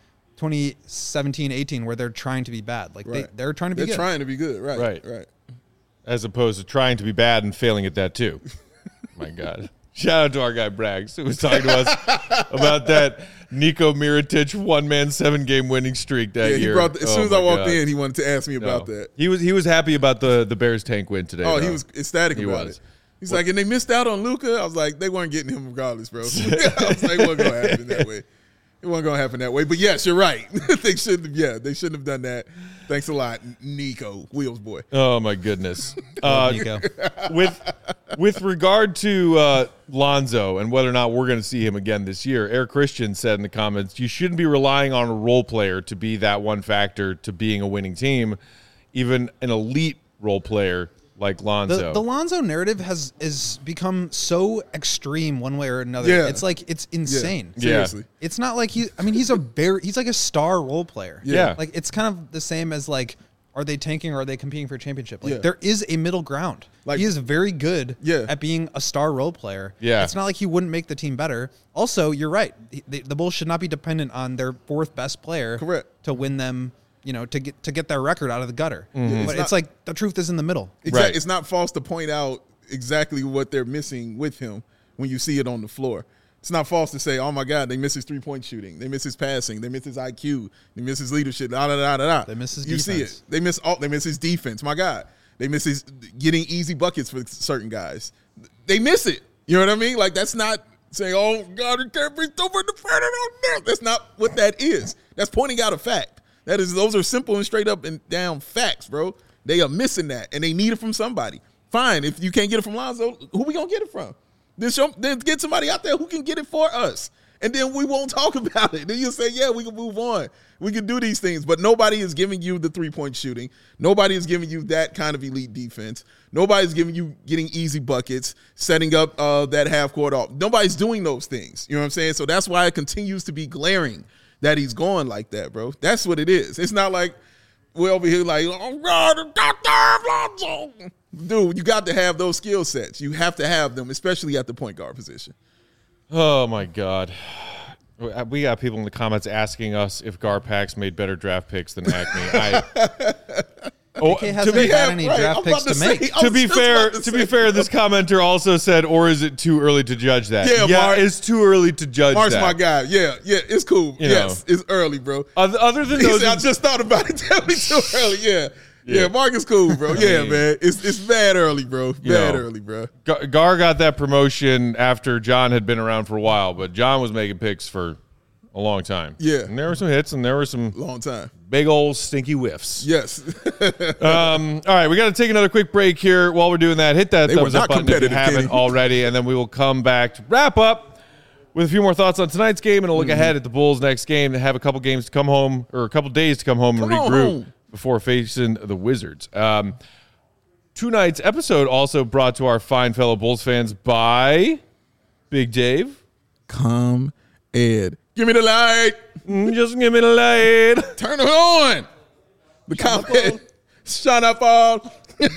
2017-18 where they're trying to be bad. Like they're trying to be good. They're trying to be good. Right. As opposed to trying to be bad and failing at that too. My God. Shout out to our guy Braggs, who was talking to us about that Niko Mirotic 1-man 7-game winning streak that year. As soon as I walked in, he wanted to ask me about that. He was happy about the Bears tank win today. Oh, he was ecstatic about it. He's like, and they missed out on Luka. I was like, they weren't getting him regardless, bro. I was like, it wasn't going to happen that way. It wasn't going to happen that way. But yes, you're right. They shouldn't have done that. Thanks a lot, Nico, Wheels boy. Oh my goodness. Nico. With regard to Lonzo and whether or not we're going to see him again this year, Eric Christian said in the comments, you shouldn't be relying on a role player to be that one factor to being a winning team, even an elite role player like Lonzo. The Lonzo narrative has become so extreme one way or another. Yeah. It's like it's insane. Yeah. Seriously. It's not like he's like a star role player. Yeah. Like it's kind of the same as like, are they tanking or are they competing for a championship? Like Yeah. there is a middle ground. Like- he is very good Yeah. at being a star role player. Yeah. It's not like he wouldn't make the team better. Also, you're right. The Bulls should not be dependent on their 4th best player Correct. to win them, to get their record out of the gutter. Mm-hmm. But it's like the truth is in the middle. Exactly. Right. It's not false to point out exactly what they're missing with him when you see it on the floor. It's not false to say, oh, my God, they miss his 3-point shooting. They miss his passing. They miss his IQ. They miss his leadership. They miss his defense. You see it. They miss his defense. My God. They miss his getting easy buckets for certain guys. They miss it. You know what I mean? Like, that's not saying, oh, God, it can't be over the front of. That's not what that is. That's pointing out a fact. Those are simple and straight up and down facts, bro. They are missing that, and they need it from somebody. Fine, if you can't get it from Lonzo, who we gonna get it from? Then get somebody out there who can get it for us. And then we won't talk about it. Then you'll say, yeah, we can move on. We can do these things. But nobody is giving you the three-point shooting. Nobody is giving you that kind of elite defense. Nobody's giving you getting easy buckets, setting up that half-court off. Nobody's doing those things. You know what I'm saying? So that's why it continues to be glaring that he's going like that, bro. That's what it is. It's not like we're over here like, oh, God, dude, you got to have those skill sets. You have to have them, especially at the point guard position. Oh, my God. We got people in the comments asking us if Garpax made better draft picks than Acme. hasn't had any draft picks to make. To be fair, this commenter also said, or is it too early to judge that? Yeah, it's too early to judge Mark's that. my guy. Yeah, it's cool. Yes, it's early, bro. Other than He those, said, I just thought about it. Tell me too early. Yeah, Mark is cool, bro. Yeah, man. It's bad early, bro. Bad early, bro. Gar got that promotion after John had been around for a while, but John was making picks for a long time. Yeah. And there were some hits and there were some long time big old stinky whiffs. Yes. All right, we got to take another quick break here. While we're doing that, hit that thumbs up button if you haven't already, and then we will come back to wrap up with a few more thoughts on tonight's game and a look ahead at the Bulls' next game. They have a couple games to come home, or a couple days to come home and regroup before facing the Wizards. Tonight's episode also brought to our fine fellow Bulls fans by Big Dave. Come, Ed. Give me the light. Just give me the light. Turn it on. The ComEd. Shut up all.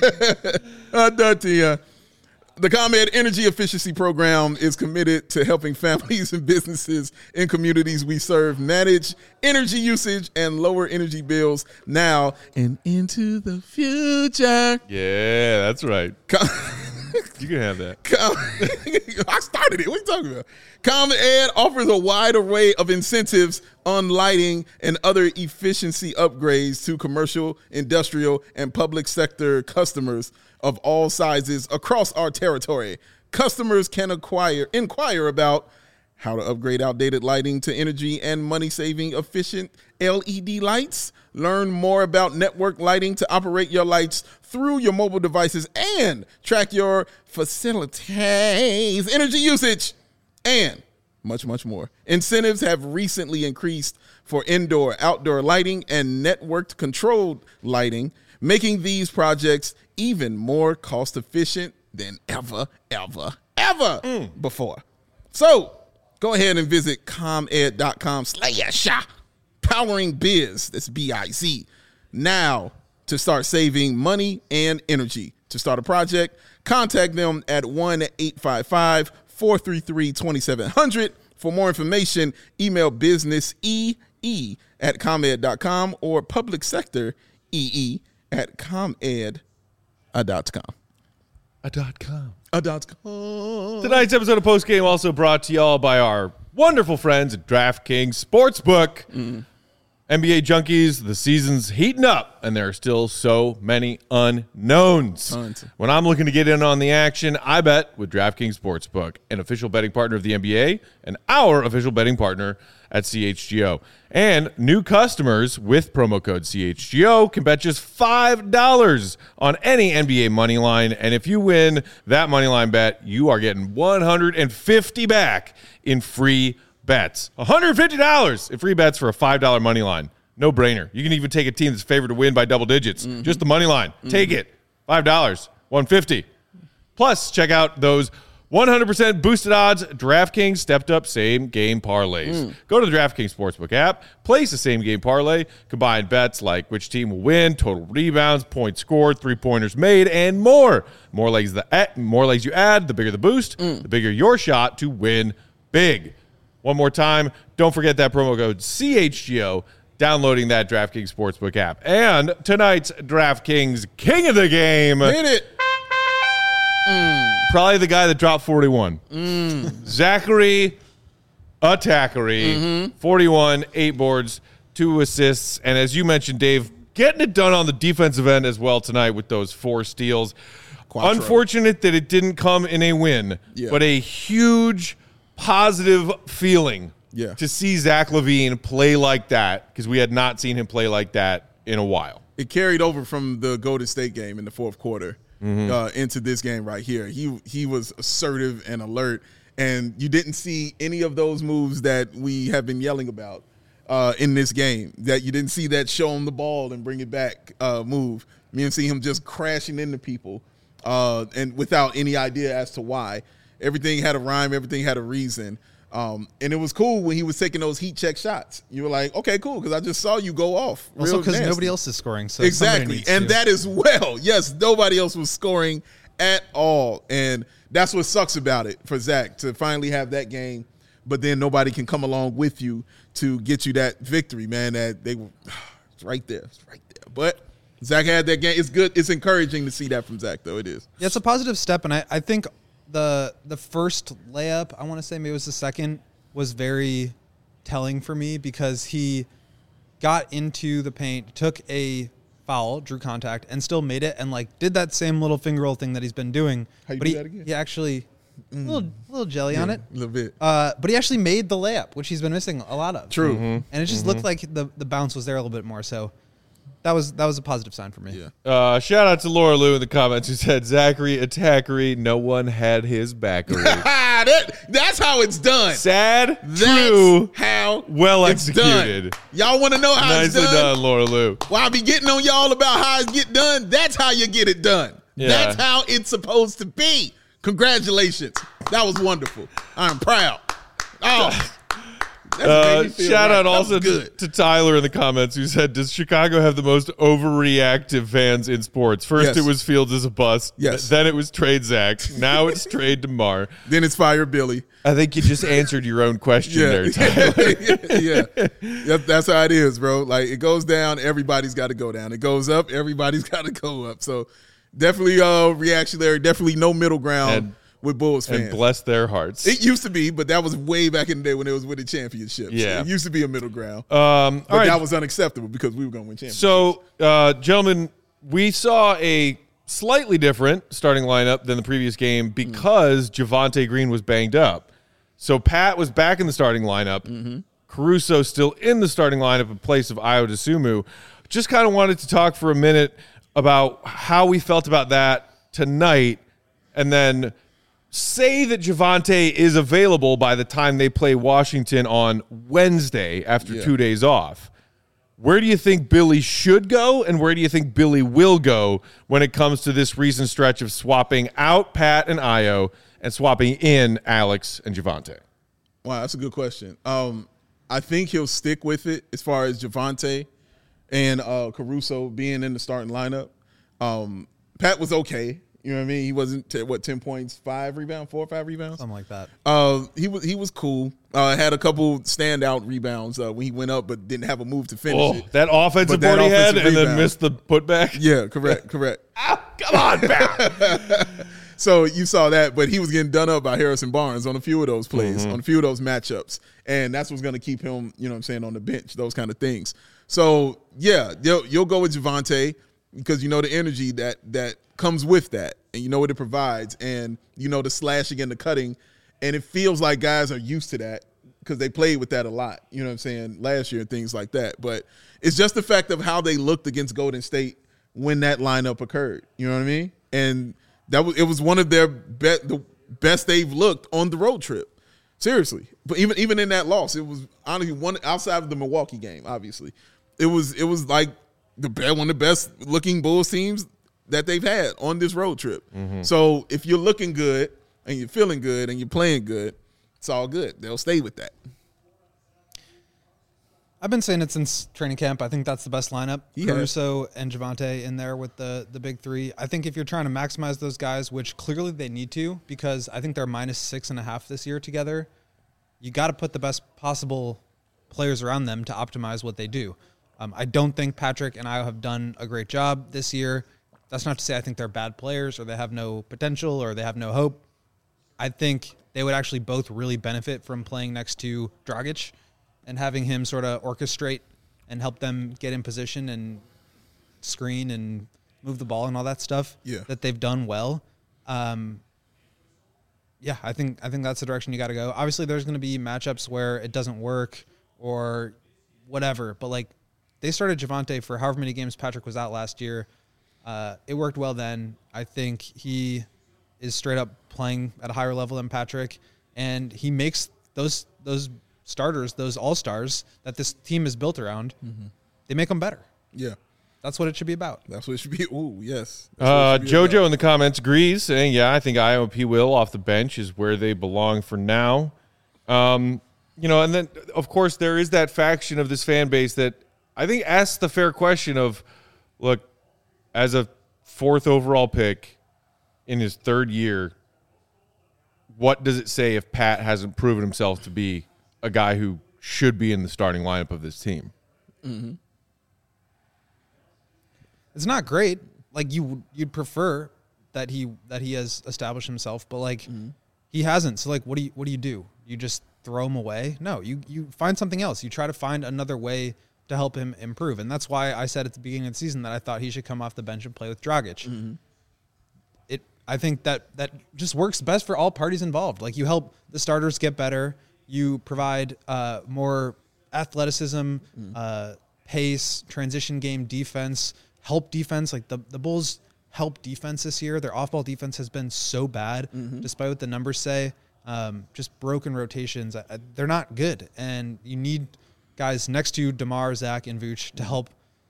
The ComEd Energy Efficiency Program is committed to helping families and businesses in communities we serve manage energy usage and lower energy bills now and into the future. Yeah, that's right. You can have that. I started it. What are you talking about? ComEd offers a wide array of incentives on lighting and other efficiency upgrades to commercial, industrial, and public sector customers of all sizes across our territory. Customers can inquire about how to upgrade outdated lighting to energy and money-saving efficient LED lights. Learn more about network lighting to operate your lights through your mobile devices and track your facilities' energy usage, and much, much more. Incentives have recently increased for indoor, outdoor lighting and networked controlled lighting, making these projects even more cost-efficient than ever before. So go ahead and visit comed.com/powering biz. That's BIZ. Now to start saving money and energy. To start a project, contact them at 1-855-433-2700. For more information, email businessee@comed.com or public sector ee@comed.com. Tonight's episode of Post Game also brought to y'all by our wonderful friends at DraftKings Sportsbook. NBA junkies, the season's heating up, and there are still so many unknowns. Tons. When I'm looking to get in on the action, I bet with DraftKings Sportsbook, an official betting partner of the NBA and our official betting partner at CHGO. And new customers with promo code CHGO can bet just $5 on any NBA money line, and if you win that money line bet, you are getting $150 back in free bets. $150 in free bets for a $5 money line. No brainer. You can even take a team that's favored to win by double digits. Just the money line. Take it. $5, $150. Plus, check out those 100% boosted odds DraftKings stepped up same game parlays. Go to the DraftKings Sportsbook app, place a same game parlay, combine bets like which team will win, total rebounds, points scored, 3-pointers made, and more. More legs you add, the bigger the boost, the bigger your shot to win big. One more time, don't forget that promo code CHGO, downloading that DraftKings Sportsbook app. And tonight's DraftKings King of the Game. Hit it. Probably the guy that dropped 41. Zachary Attackery, 41, 8 boards, 2 assists. And as you mentioned, Dave, getting it done on the defensive end as well tonight with those 4 steals. Quattro. Unfortunate that it didn't come in a win, but a huge positive feeling to see Zach LaVine play like that, because we had not seen him play like that in a while. It carried over from the Golden State game in the fourth quarter. into this game right here. He was assertive and alert, and you didn't see any of those moves that we have been yelling about in this game. That you didn't see that show him the ball and bring it back move. You didn't see him just crashing into people and without any idea as to why. Everything had a rhyme. Everything had a reason. And it was cool when he was taking those heat check shots. You were like, okay, cool, because I just saw you go off. Also because nobody else is scoring. So exactly. And that as well. Yes, nobody else was scoring at all. And that's what sucks about it for Zach, to finally have that game, but then nobody can come along with you to get you that victory, man. That they were it's right there. It's right there. But Zach had that game. It's good. It's encouraging to see that from Zach, though. It is. Yeah, it's a positive step, and I think the first layup, I want to say maybe it was the second, was very telling for me because he got into the paint, took a foul, drew contact, and still made it, and like did that same little finger roll thing that he's been doing. How you do that again? He actually little jelly on it, a little bit. but he actually made the layup, which he's been missing a lot of. True. And it just looked like the bounce was there a little bit more. So that was a positive sign for me. Yeah. Shout out to Laura Lou in the comments who said, Zachary attackery, no one had his backery. That's how it's done. Sad, That's true, how well it's executed. Done. Y'all want to know how Nicely it's done? done, Laura Lou. Well, I be getting on y'all about how it get done. That's how you get it done. Yeah. That's how it's supposed to be. Congratulations. That was wonderful. I'm proud. Oh. Shout out also to Tyler in the comments who said, does Chicago have the most overreactive fans in sports? First, Yes. it was Fields as a bust. Yes. Then it was trade Zach. Now it's trade DeMar. Then it's fire Billy. I think you just answered your own question there, Tyler. Yeah, that's how it is, bro. Like, it goes down, everybody's got to go down. It goes up, everybody's got to go up. So definitely reactionary, definitely no middle ground with Bulls fans. And bless their hearts. It used to be, but that was way back in the day when it was winning championships. Yeah. It used to be a middle ground. But that was unacceptable because we were going to win championships. So, gentlemen, we saw a slightly different starting lineup than the previous game because Javonte Green was banged up. So Pat was back in the starting lineup. Caruso still in the starting lineup in place of Ayo Dosunmu. Just kind of wanted to talk for a minute about how we felt about that tonight, and then say that Javonte is available by the time they play Washington on Wednesday after 2 days off. Where do you think Billy should go, and where do you think Billy will go when it comes to this recent stretch of swapping out Pat and Ayo and swapping in Alex and Javonte? Wow, that's a good question. I think he'll stick with it as far as Javonte and Caruso being in the starting lineup. Pat was okay. You know what I mean? He wasn't 10 points, 4 or 5 rebounds, Something like that. He was cool. Had a couple standout rebounds when he went up, but didn't have a move to finish it. That offensive board he had, and then missed the putback. Yeah, correct. Come on, Pat. So you saw that, but he was getting done up by Harrison Barnes on a few of those plays, on a few of those matchups, and that's what's going to keep him, you know what I'm saying, on the bench, those kind of things. So yeah, you'll go with Javonte because you know the energy that comes with that, and you know what it provides, and you know the slashing and the cutting, and it feels like guys are used to that because they played with that a lot, you know what I'm saying, last year and things like that. But it's just the fact of how they looked against Golden State when that lineup occurred, you know what I mean? And it was one of their the best they've looked on the road trip, seriously. But even in that loss, it was honestly one outside of the Milwaukee game. Obviously, it was like one of the best looking Bulls teams that they've had on this road trip. So if you're looking good and you're feeling good and you're playing good, it's all good. They'll stay with that. I've been saying it since training camp. I think that's the best lineup. Caruso and Javonte in there with the big three. I think if you're trying to maximize those guys, which clearly they need to, because I think they're -6.5 this year together, you got to put the best possible players around them to optimize what they do. I don't think Patrick and Ayo have done a great job this year. That's not to say I think they're bad players or they have no potential or they have no hope. I think they would actually both really benefit from playing next to Dragic and having him sort of orchestrate and help them get in position and screen and move the ball and all that stuff that they've done well. I think that's the direction you got to go. Obviously, there's going to be matchups where it doesn't work or whatever, but like they started Javonte for however many games Patrick was out last year. It worked well then. I think he is straight up playing at a higher level than Patrick, and he makes those starters, those all-stars that this team is built around, they make them better. Yeah. That's what it should be about. That's what it should be. Ooh, yes. JoJo in the comments agrees, saying, yeah, I think IOP Will off the bench is where they belong for now. And then, of course, there is that faction of this fan base that I think asks the fair question of, look, as a 4th overall pick in his 3rd year, what does it say if Pat hasn't proven himself to be a guy who should be in the starting lineup of this team? Mm-hmm. It's not great. Like you'd prefer that he has established himself, but he hasn't. So what do you do? You just throw him away? No, you find something else. You try to find another way to help him improve. And that's why I said at the beginning of the season that I thought he should come off the bench and play with Dragic. Mm-hmm. I think that just works best for all parties involved. Like you help the starters get better. You provide more athleticism, pace, transition game, defense, help defense. Like the Bulls help defense this year. Their off-ball defense has been so bad, despite what the numbers say. Just broken rotations. They're not good. And you need guys next to DeMar, Zach, and Vooch to help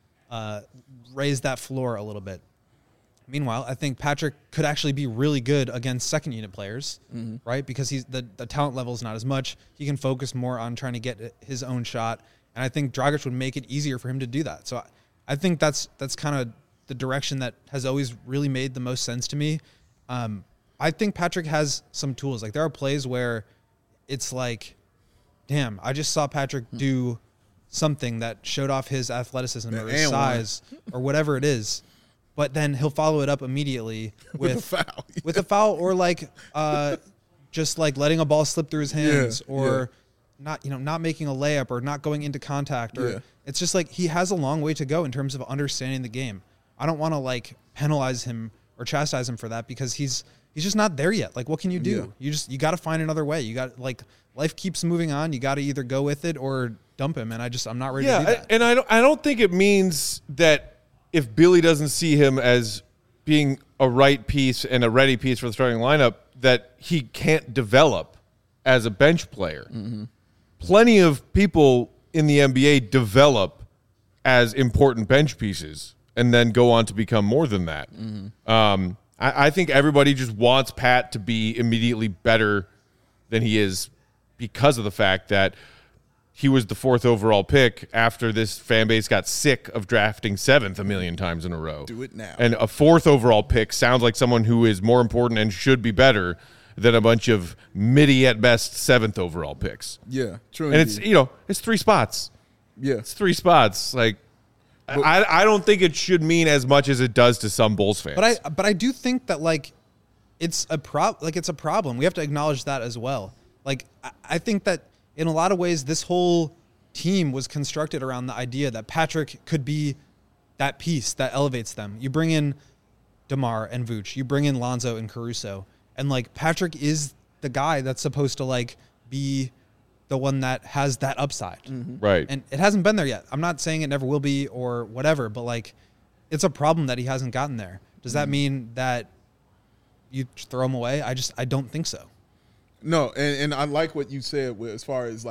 raise that floor a little bit. Meanwhile, I think Patrick could actually be really good against second-unit players, right? Because the talent level is not as much. He can focus more on trying to get his own shot. And I think Dragic would make it easier for him to do that. So I think that's kind of the direction that has always really made the most sense to me. I think Patrick has some tools. Like there are plays where it's like, damn, I just saw Patrick do something that showed off his athleticism or his size or whatever it is. But then he'll follow it up immediately with a foul or just letting a ball slip through his hands or not making a layup or not going into contact or it's just like he has a long way to go in terms of understanding the game. I don't want to penalize him or chastise him for that because he's just not there yet. Like what can you do? You got to find another way. You got life keeps moving on. You got to either go with it or dump him. And I'm not ready to do that. And I don't think it means that if Billy doesn't see him as being a right piece and a ready piece for the starting lineup, that he can't develop as a bench player. Plenty of people in the NBA develop as important bench pieces and then go on to become more than that. I think everybody just wants Pat to be immediately better than he is because of the fact that he was the 4th overall pick after this fan base got sick of drafting 7th a million times in a row. Do it now. And a 4th overall pick sounds like someone who is more important and should be better than a bunch of midi at best 7th overall picks. Yeah, true. And it's, it's 3 spots. Yeah. It's 3 spots. I don't think it should mean as much as it does to some Bulls fans. But I do think that it's a problem. We have to acknowledge that as well. I think that in a lot of ways, this whole team was constructed around the idea that Patrick could be that piece that elevates them. You bring in DeMar and Vooch. You bring in Lonzo and Caruso. And, Patrick is the guy that's supposed to, be the one that has that upside. Right. And it hasn't been there yet. I'm not saying it never will be or whatever, but, it's a problem that he hasn't gotten there. Does that mean that you throw him away? I don't think so. No, and I like what you said as far as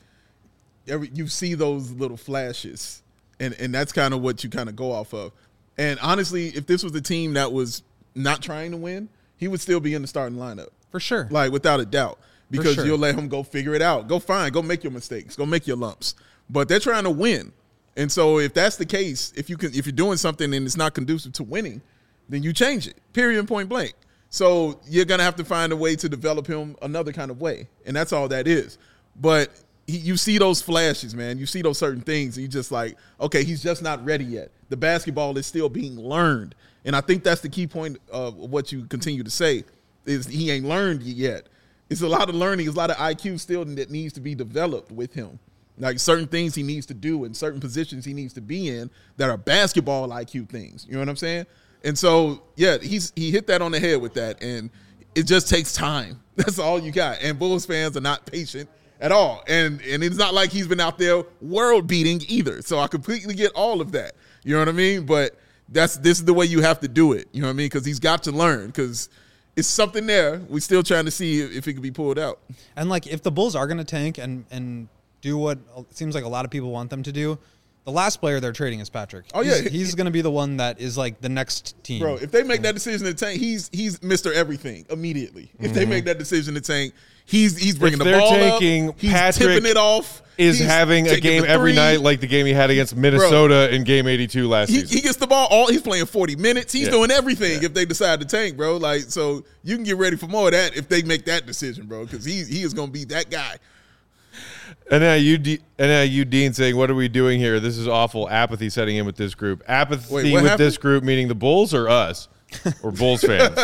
you see those little flashes, and that's kind of what you kind of go off of. And honestly, if this was a team that was not trying to win, he would still be in the starting lineup for sure, without a doubt, because sure. You'll let him go figure it out, go make your mistakes, go make your lumps. But they're trying to win, and so if that's the case, if you're doing something and it's not conducive to winning, then you change it. Period. And point blank. So you're going to have to find a way to develop him another kind of way, and that's all that is. But you see those flashes, man. You see those certain things, and you're just like, okay, he's just not ready yet. The basketball is still being learned, and I think that's the key point of what you continue to say is he ain't learned yet. It's a lot of learning. It's a lot of IQ still that needs to be developed with him. Certain things he needs to do and certain positions he needs to be in that are basketball IQ things. You know what I'm saying? And so, yeah, he hit that on the head with that, and it just takes time. That's all you got. And Bulls fans are not patient at all. And it's not like he's been out there world beating either. So I completely get all of that. You know what I mean? But this is the way you have to do it. You know what I mean? Because he's got to learn because it's something there. We're still trying to see if it can be pulled out. And like if the Bulls are going to tank and do what it seems like a lot of people want them to do, the last player they're trading is Patrick. Oh yeah, he's going to be the one that is like the next team. Bro, if they make that decision to tank, he's Mr. Everything immediately. If they make that decision to tank, he's bringing the ball tanking, up. He's Patrick tipping it off. Is having a game every night like the game he had against Minnesota in Game 82 last season. He gets the ball he's playing 40 minutes. He's doing everything if they decide to tank, bro. Like, so you can get ready for more of that if they make that decision, bro, because he is going to be that guy. And now you, Dean, saying, what are we doing here? This is awful. Apathy setting in with this group. Apathy with this group, meaning the Bulls or us? Or Bulls fans?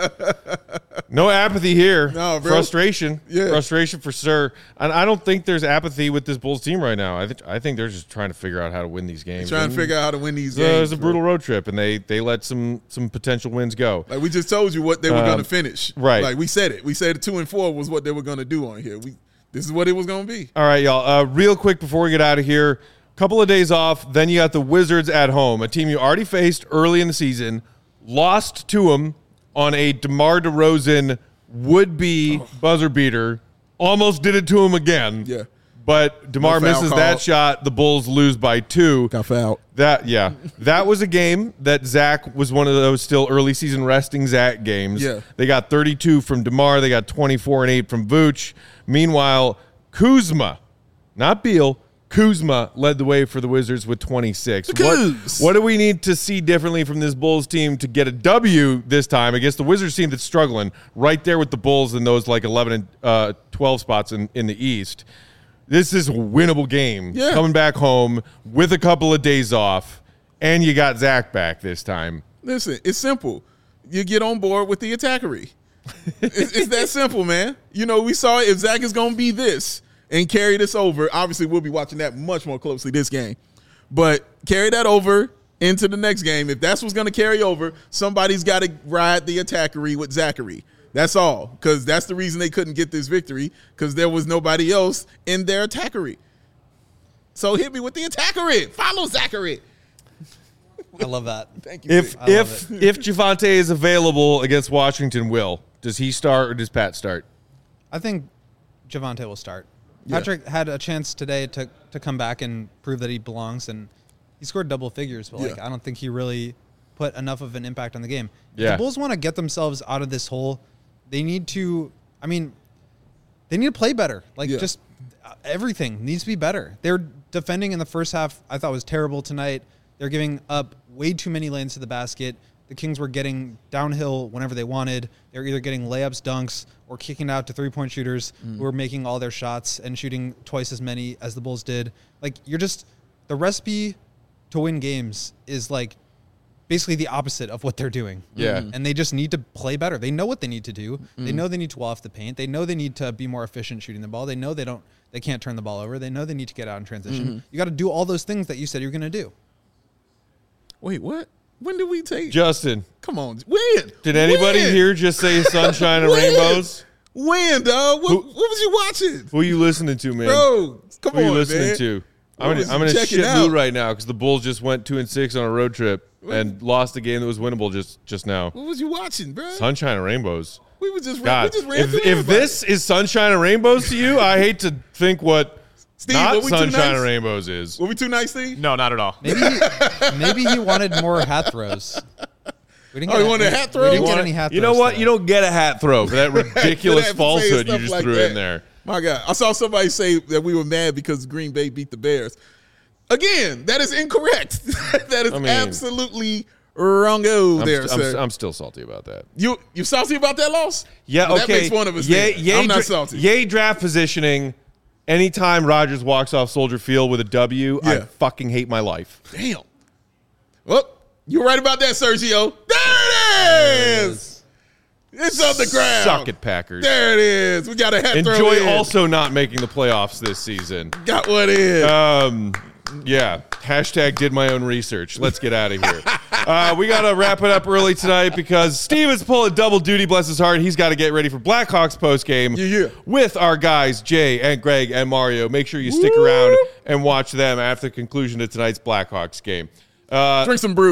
No apathy here. No, bro. Frustration. Yeah. Frustration for sure. And I don't think there's apathy with this Bulls team right now. I think they're just trying to figure out how to win these games. Trying to figure out how to win these games. It was a brutal road trip, and they let some potential wins go. Like we just told you what they were going to finish. Right. Like we said it. We said 2-4 was what they were going to do on here. This is what it was going to be. All right, y'all. Real quick before we get out of here, couple of days off. Then you got the Wizards at home, a team you already faced early in the season, lost to them on a DeMar DeRozan would-be buzzer beater, almost did it to him again. Yeah. But DeMar misses that shot. The Bulls lose by 2. Got fouled. That was a game that Zach was one of those still early season resting Zach games. Yeah. They got 32 from DeMar. They got 24 and 8 from Vooch. Meanwhile, Kuzma, not Beal, Kuzma led the way for the Wizards with 26. What do we need to see differently from this Bulls team to get a W this time against the Wizards team that's struggling right there with the Bulls in those like 11 and 12 spots in the East? This is a winnable game. Yeah. Coming back home with a couple of days off, and you got Zach back this time. Listen, it's simple. You get on board with the attackery. It's that simple, man. You know, we saw if Zach is going to be this and carry this over, obviously we'll be watching that much more closely this game. But carry that over into the next game. If that's what's going to carry over, somebody's got to ride the attackery with Zachary. That's all, because that's the reason they couldn't get this victory, because there was nobody else in their attackery. So hit me with the attackery. Follow Zachary. I love that. Thank you. If Javonte is available against Washington, does he start or does Pat start? I think Javonte will start. Yeah. Patrick had a chance today to come back and prove that he belongs, and he scored double figures, but I don't think he really put enough of an impact on the game. If the Bulls want to get themselves out of this hole, they need to play better. Just everything needs to be better. They're defending in the first half, I thought was terrible tonight. They're giving up way too many lanes to the basket. The Kings were getting downhill whenever they wanted. They were either getting layups, dunks, or kicking out to three-point shooters who were making all their shots and shooting twice as many as the Bulls did. The recipe to win games is basically the opposite of what they're doing. Yeah. And they just need to play better. They know what they need to do. They know they need to wall off the paint. They know they need to be more efficient shooting the ball. They know they can't turn the ball over. They know they need to get out in transition. You got to do all those things that you said you're going to do. Wait, what? When did we take Justin? Come on, when? Did anybody here just say sunshine and rainbows? When, dog? What was you watching? Who are you listening to, man? Bro, come on, man. Who are you listening to? I'm in a shit mood right now because the Bulls just went 2-6 on a road trip and lost a game that was winnable just now. What was you watching, bro? Sunshine and rainbows. We were just God, ran if this is sunshine and rainbows to you, I hate to think what Steve, not sunshine and rainbows is. Were we too nice, Steve? No, not at all. Maybe he wanted more hat throws. He wanted a hat throw? We didn't get any hat throws. You know what? Today. You don't get a hat throw for that ridiculous falsehood you just threw in there. My God. I saw somebody say that we were mad because Green Bay beat the Bears. Again, that is incorrect. That is absolutely wrong-o there, sir. I'm still salty about that. You salty about that loss? Yeah, well, okay. That makes one of us. I'm not salty. Yay draft positioning. Anytime Rodgers walks off Soldier Field with a W, I fucking hate my life. Damn. Well, you're right about that, Sergio. There it is. It's on the ground. Suck it, Packers. There it is. We got a hat throw in. Enjoy also not making the playoffs this season. Got one in. Yeah. Hashtag did my own research. Let's get out of here. We got to wrap it up early tonight because Steve is pulling double duty, bless his heart. He's got to get ready for Blackhawks postgame with our guys, Jay and Greg and Mario. Make sure you stick around and watch them after the conclusion of tonight's Blackhawks game. Drink some brew.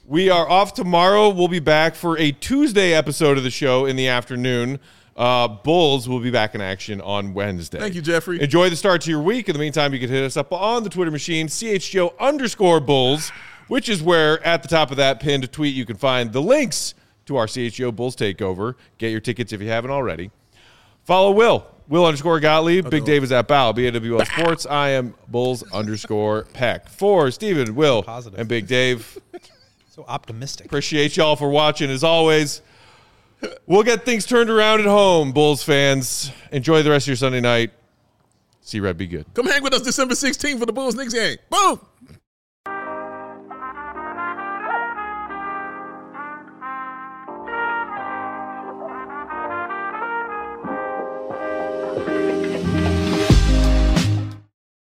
We are off tomorrow. We'll be back for a Tuesday episode of the show in the afternoon. Bulls will be back in action on Wednesday. Thank you, Jeffrey. Enjoy the start to your week. In the meantime, you can hit us up on the Twitter machine, CHGO_Bulls, which is where at the top of that pinned tweet you can find the links to our CHGO Bulls takeover. Get your tickets if you haven't already. Follow Will_Gottlieb. Big Dave is at Bow, BAWL Sports. I am Bulls_Peck. For Steven, Will, Positive. and Big Dave. So optimistic. Appreciate y'all for watching as always. We'll get things turned around at home, Bulls fans. Enjoy the rest of your Sunday night. See Red be good. Come hang with us December 16th for the Bulls Knicks game. Boom.